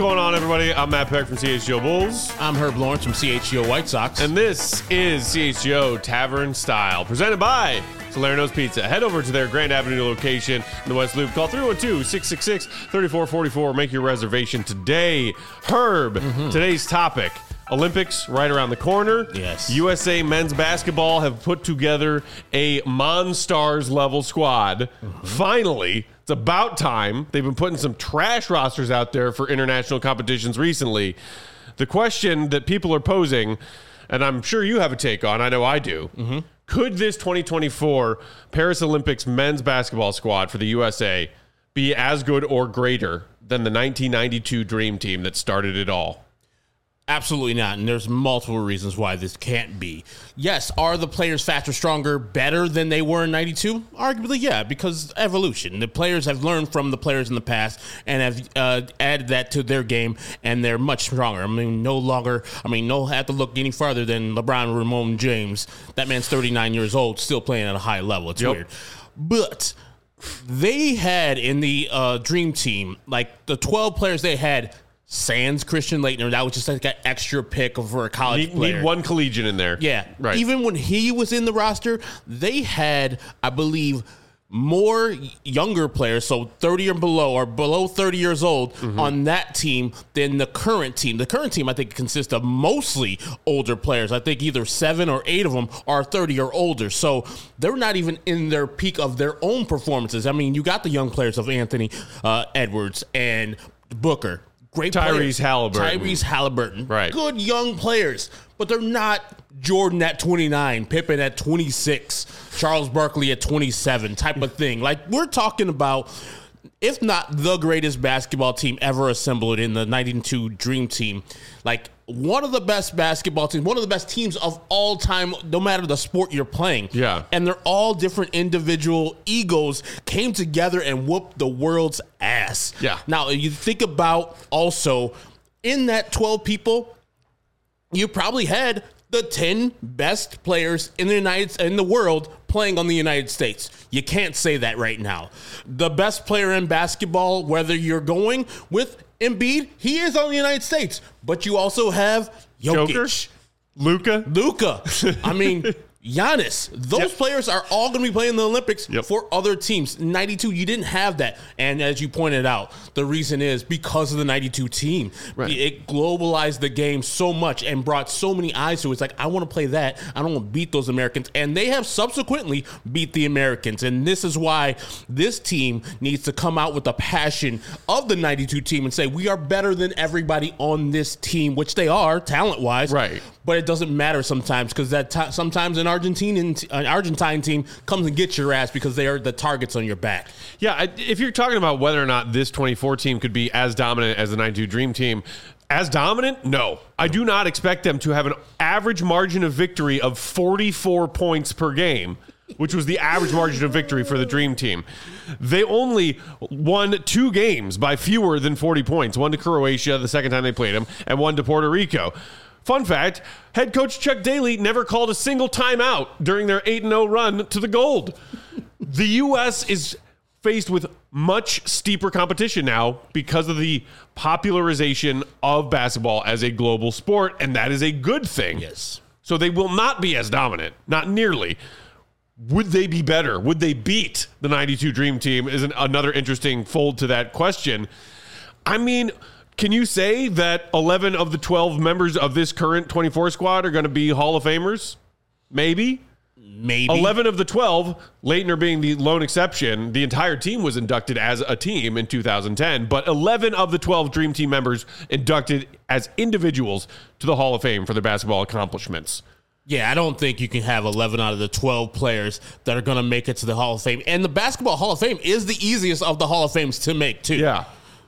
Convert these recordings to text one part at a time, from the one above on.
going on, everybody? I'm Matt Peck from CHGO Bulls. I'm Herb Lawrence from CHGO White Sox. And this is CHGO Tavern Style, presented by Salerno's Pizza. Head over to their Grand Avenue location in the West Loop. Call 312-666-3444. Make your reservation today. Herb, today's topic. Olympics right around the corner. Yes. USA men's basketball have put together a Monstars level squad. Finally, it's about time. They've been putting some trash rosters out there for international competitions recently. The question that people are posing, and I'm sure you have a take on, I know I do, could this 2024 Paris Olympics men's basketball squad for the USA be as good or greater than the 1992 Dream Team that started it all? Absolutely not, and there's multiple reasons why this can't be. Yes, are the players faster, stronger, better than they were in 92? Arguably, yeah, because evolution. The players have learned from the players in the past and have added that to their game, and they're much stronger. No have to look any farther than LeBron Ramon James. That man's 39 years old, still playing at a high level. It's weird. But they had in the Dream Team, like the 12 players they had, sans Christian Laettner, that was just like an extra pick for a college player. Need one collegian in there. Yeah. Right. Even when he was in the roster, they had, I believe, more younger players, so 30 or below 30 years old on that team than the current team. The current team, I think, consists of mostly older players. I think either 7 or 8 of them are 30 or older. So they're not even in their peak of their own performances. I mean, you got the young players of Anthony Edwards and Booker. Great Tyrese Halliburton. Right. Good young players, but they're not Jordan at 29, Pippen at 26, Charles Barkley at 27 type of thing. Like, we're talking about, if not the greatest basketball team ever assembled in the 92 Dream Team, like one of the best basketball teams, one of the best teams of all time, no matter the sport you're playing. Yeah. And they're all different individual egos came together and whooped the world's ass. Yeah. Now, you think about also in that 12 people, you probably had the 10 best players in the world playing on the United States. You can't say that right now. The best player in basketball, whether you're going with Embiid, he is on the United States, but you also have Jokic. Luka. I mean, Giannis. Those players are all going to be playing in the Olympics for other teams. 92, you didn't have that. And as you pointed out, the reason is because of the 92 team. Right. It globalized the game so much and brought so many eyes to it. It's like, I want to play that. I don't want to beat those Americans. And they have subsequently beat the Americans. And this is why this team needs to come out with the passion of the 92 team and say, we are better than everybody on this team, which they are talent-wise. Right. But it doesn't matter sometimes because sometimes an Argentine team comes and gets your ass because they are the targets on your back. Yeah, if you're talking about whether or not this 24 team could be as dominant as the 92 Dream Team, as dominant? No. I do not expect them to have an average margin of victory of 44 points per game, which was the average margin of victory for the Dream Team. They only won 2 games by fewer than 40 points, one to Croatia the second time they played them, and one to Puerto Rico. Fun fact, head coach Chuck Daly never called a single timeout during their 8-0 run to the gold. The U.S. is faced with much steeper competition now because of the popularization of basketball as a global sport, and that is a good thing. Yes. So they will not be as dominant, not nearly. Would they be better? Would they beat the 92 Dream Team is another interesting fold to that question. I mean, can you say that 11 of the 12 members of this current 24 squad are going to be Hall of Famers? Maybe. 11 of the 12, Laettner being the lone exception, the entire team was inducted as a team in 2010, but 11 of the 12 Dream Team members inducted as individuals to the Hall of Fame for their basketball accomplishments. Yeah, I don't think you can have 11 out of the 12 players that are going to make it to the Hall of Fame. And the Basketball Hall of Fame is the easiest of the Hall of Fames to make, too. Yeah.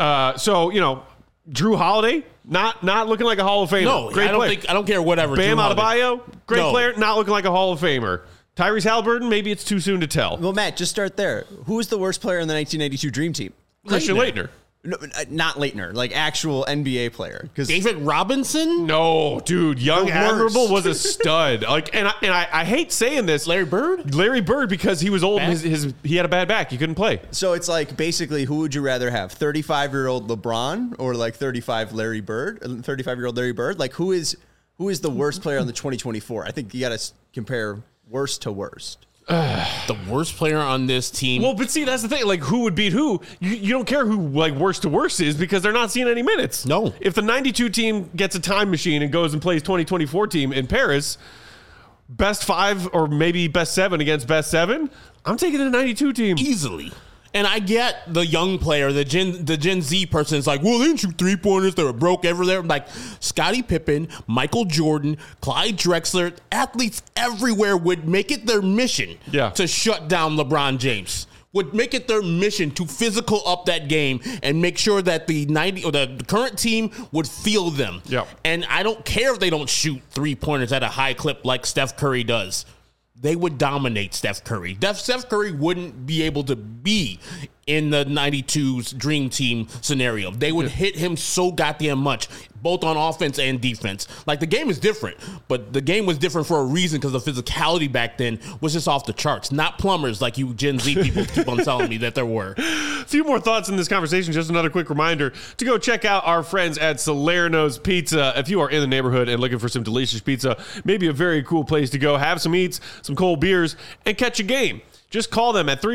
Drew Holiday, not looking like a Hall of Famer. No, great player. I don't care whatever. Bam Adebayo, great player, not looking like a Hall of Famer. Tyrese Halliburton, maybe it's too soon to tell. Well, Matt, just start there. Who was the worst player in the 1992 Dream Team? Christian Laettner. No, not Leitner, like actual NBA player. Because David Robinson? No, dude, Young The Admirable worst. was a stud. Like, and I hate saying this, Larry Bird? Larry Bird, because he was old. Back? And he had a bad back. He couldn't play. So it's like basically, who would you rather have, 35-year-old LeBron or like 35-year-old Larry Bird? Like who is the worst player on the 2024? I think you got to compare worst to worst. The worst player on this team. Well, but see, that's the thing. Like, who would beat who? You don't care who, like, worst to worst is because they're not seeing any minutes. No. If the 92 team gets a time machine and goes and plays 2024 team in Paris, best 5 or maybe best 7 against best 7, I'm taking the 92 team. Easily. And I get the young player, the Gen Z person is like, well, they didn't shoot 3-pointers. They were broke everywhere. I'm like, Scottie Pippen, Michael Jordan, Clyde Drexler, athletes everywhere would make it their mission to shut down LeBron James. Would make it their mission to physical up that game and make sure that the current team would feel them. Yeah. And I don't care if they don't shoot 3-pointers at a high clip like Steph Curry does. They would dominate Steph Curry. Steph Curry wouldn't be able to be in the 92's Dream Team scenario. They would hit him so goddamn much, both on offense and defense. Like, the game is different, but the game was different for a reason because the physicality back then was just off the charts. Not plumbers like you Gen Z people keep on telling me that there were. A few more thoughts in this conversation. Just another quick reminder to go check out our friends at Salerno's Pizza. If you are in the neighborhood and looking for some delicious pizza, maybe a very cool place to go, have some eats, some cold beers, and catch a game. Just call them at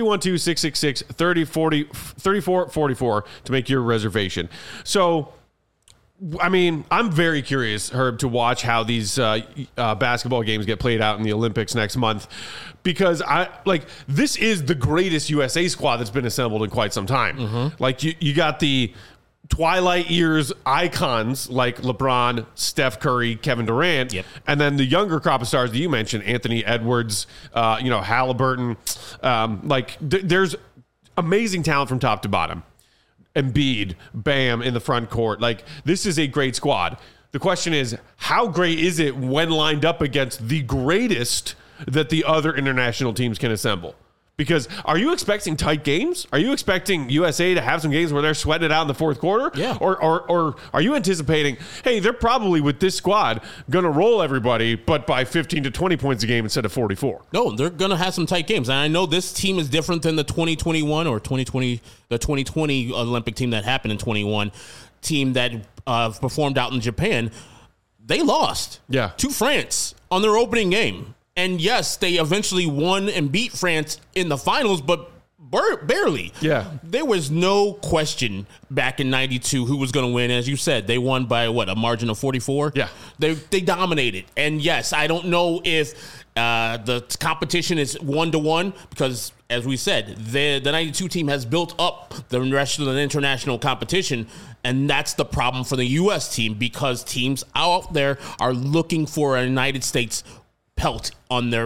312-666-3444 to make your reservation. So, I mean, I'm very curious, Herb, to watch how these basketball games get played out in the Olympics next month, because this is the greatest USA squad that's been assembled in quite some time. Mm-hmm. Like you got the Twilight years icons like LeBron, Steph Curry, Kevin Durant, and then the younger crop of stars that you mentioned, Anthony Edwards, Halliburton. There's amazing talent from top to bottom. Embiid, Bam in the front court. Like, this is a great squad. The question is, how great is it when lined up against the greatest that the other international teams can assemble? Because are you expecting tight games? Are you expecting USA to have some games where they're sweating it out in the fourth quarter? Yeah. Or are you anticipating, hey, they're probably with this squad going to roll everybody, but by 15 to 20 points a game instead of 44? No, they're going to have some tight games. And I know this team is different than the 2021 or 2020 Olympic team that happened in 21, team that performed out in Japan. They lost to France on their opening game. And yes, they eventually won and beat France in the finals, but barely. Yeah. There was no question back in 92 who was going to win. As you said, they won by a margin of 44? Yeah. They dominated. And yes, I don't know if the competition is 1-to-1 because, as we said, the 92 team has built up the rest of the international competition. And that's the problem for the U.S. team, because teams out there are looking for a United States pelt on their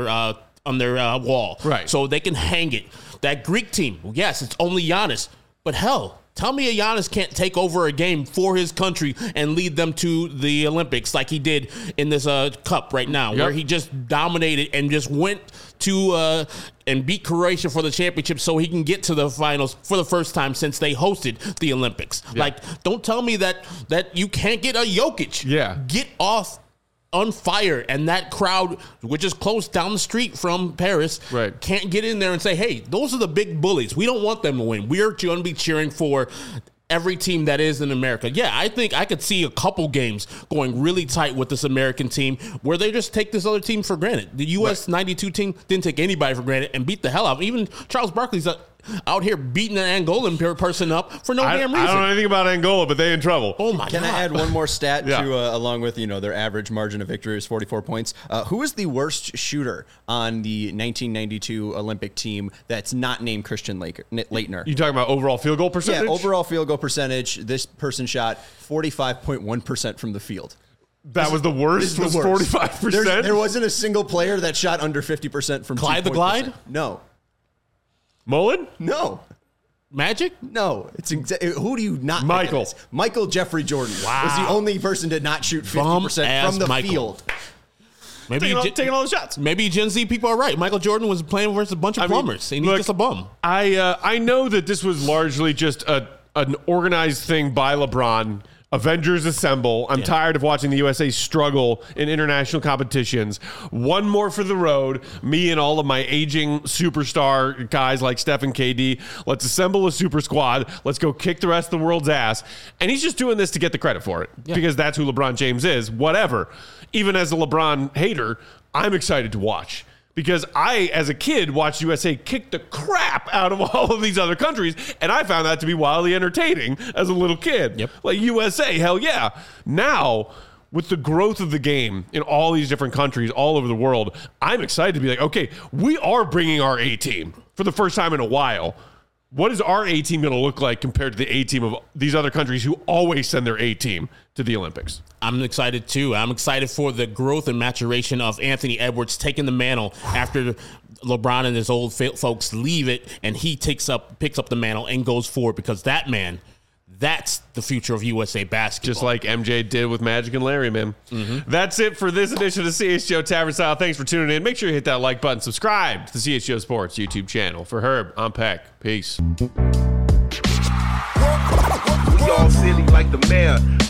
wall, right? So they can hang it. That Greek team, yes, it's only Giannis, but hell, tell me a Giannis can't take over a game for his country and lead them to the Olympics like he did in this cup right now, where he just dominated and just went to and beat Croatia for the championship so he can get to the finals for the first time since they hosted the Olympics. Like, don't tell me that you can't get a Jokic. Get off on fire, and that crowd, which is close down the street from Paris, can't get in there and say, hey, those are the big bullies. We don't want them to win. We're going to be cheering for every team that is in America. Yeah, I think I could see a couple games going really tight with this American team where they just take this other team for granted. The U.S. 92 team didn't take anybody for granted and beat the hell out of them. Even Charles Barkley's out here beating an Angolan person up for no damn reason. I don't know anything about Angola, but they in trouble. Oh, my God. Can I add one more stat to along with, their average margin of victory is 44 points? Who is the worst shooter on the 1992 Olympic team that's not named Christian Leitner? You talking about overall field goal percentage? Yeah, overall field goal percentage. This person shot 45.1% from the field. That was the worst? Was 45%? There wasn't a single player that shot under 50% from Clyde the Glide? No. Mullen? No. Magic? No. It's who do you not? Michael. Michael Jeffrey Jordan was the only person to not shoot 50% from the field. Maybe taking all the shots. Maybe Gen Z people are right. Michael Jordan was playing versus a bunch of plumbers, and he's just a bum. I know that this was largely just a an organized thing by LeBron. Avengers assemble. I'm tired of watching the USA struggle in international competitions. One more for the road. Me and all of my aging superstar guys like Steph and KD. Let's assemble a super squad. Let's go kick the rest of the world's ass. And he's just doing this to get the credit for it because that's who LeBron James is. Whatever. Even as a LeBron hater, I'm excited to watch. Because I, as a kid, watched USA kick the crap out of all of these other countries, and I found that to be wildly entertaining as a little kid. Yep. Like USA, hell yeah. Now, with the growth of the game in all these different countries all over the world, I'm excited to be like, okay, we are bringing our A-team for the first time in a while. What is our A-team going to look like compared to the A-team of these other countries who always send their A-team to the Olympics? I'm excited too. I'm excited for the growth and maturation of Anthony Edwards taking the mantle after LeBron and his old folks leave it, and he picks up the mantle and goes forward, because that man, that's the future of USA basketball. Just like MJ did with Magic and Larry, man. Mm-hmm. That's it for this edition of CHGO Tavern Style. Thanks for tuning in. Make sure you hit that like button. Subscribe to the CHGO Sports YouTube channel. For Herb, I'm Peck. Peace. We all silly like the mayor.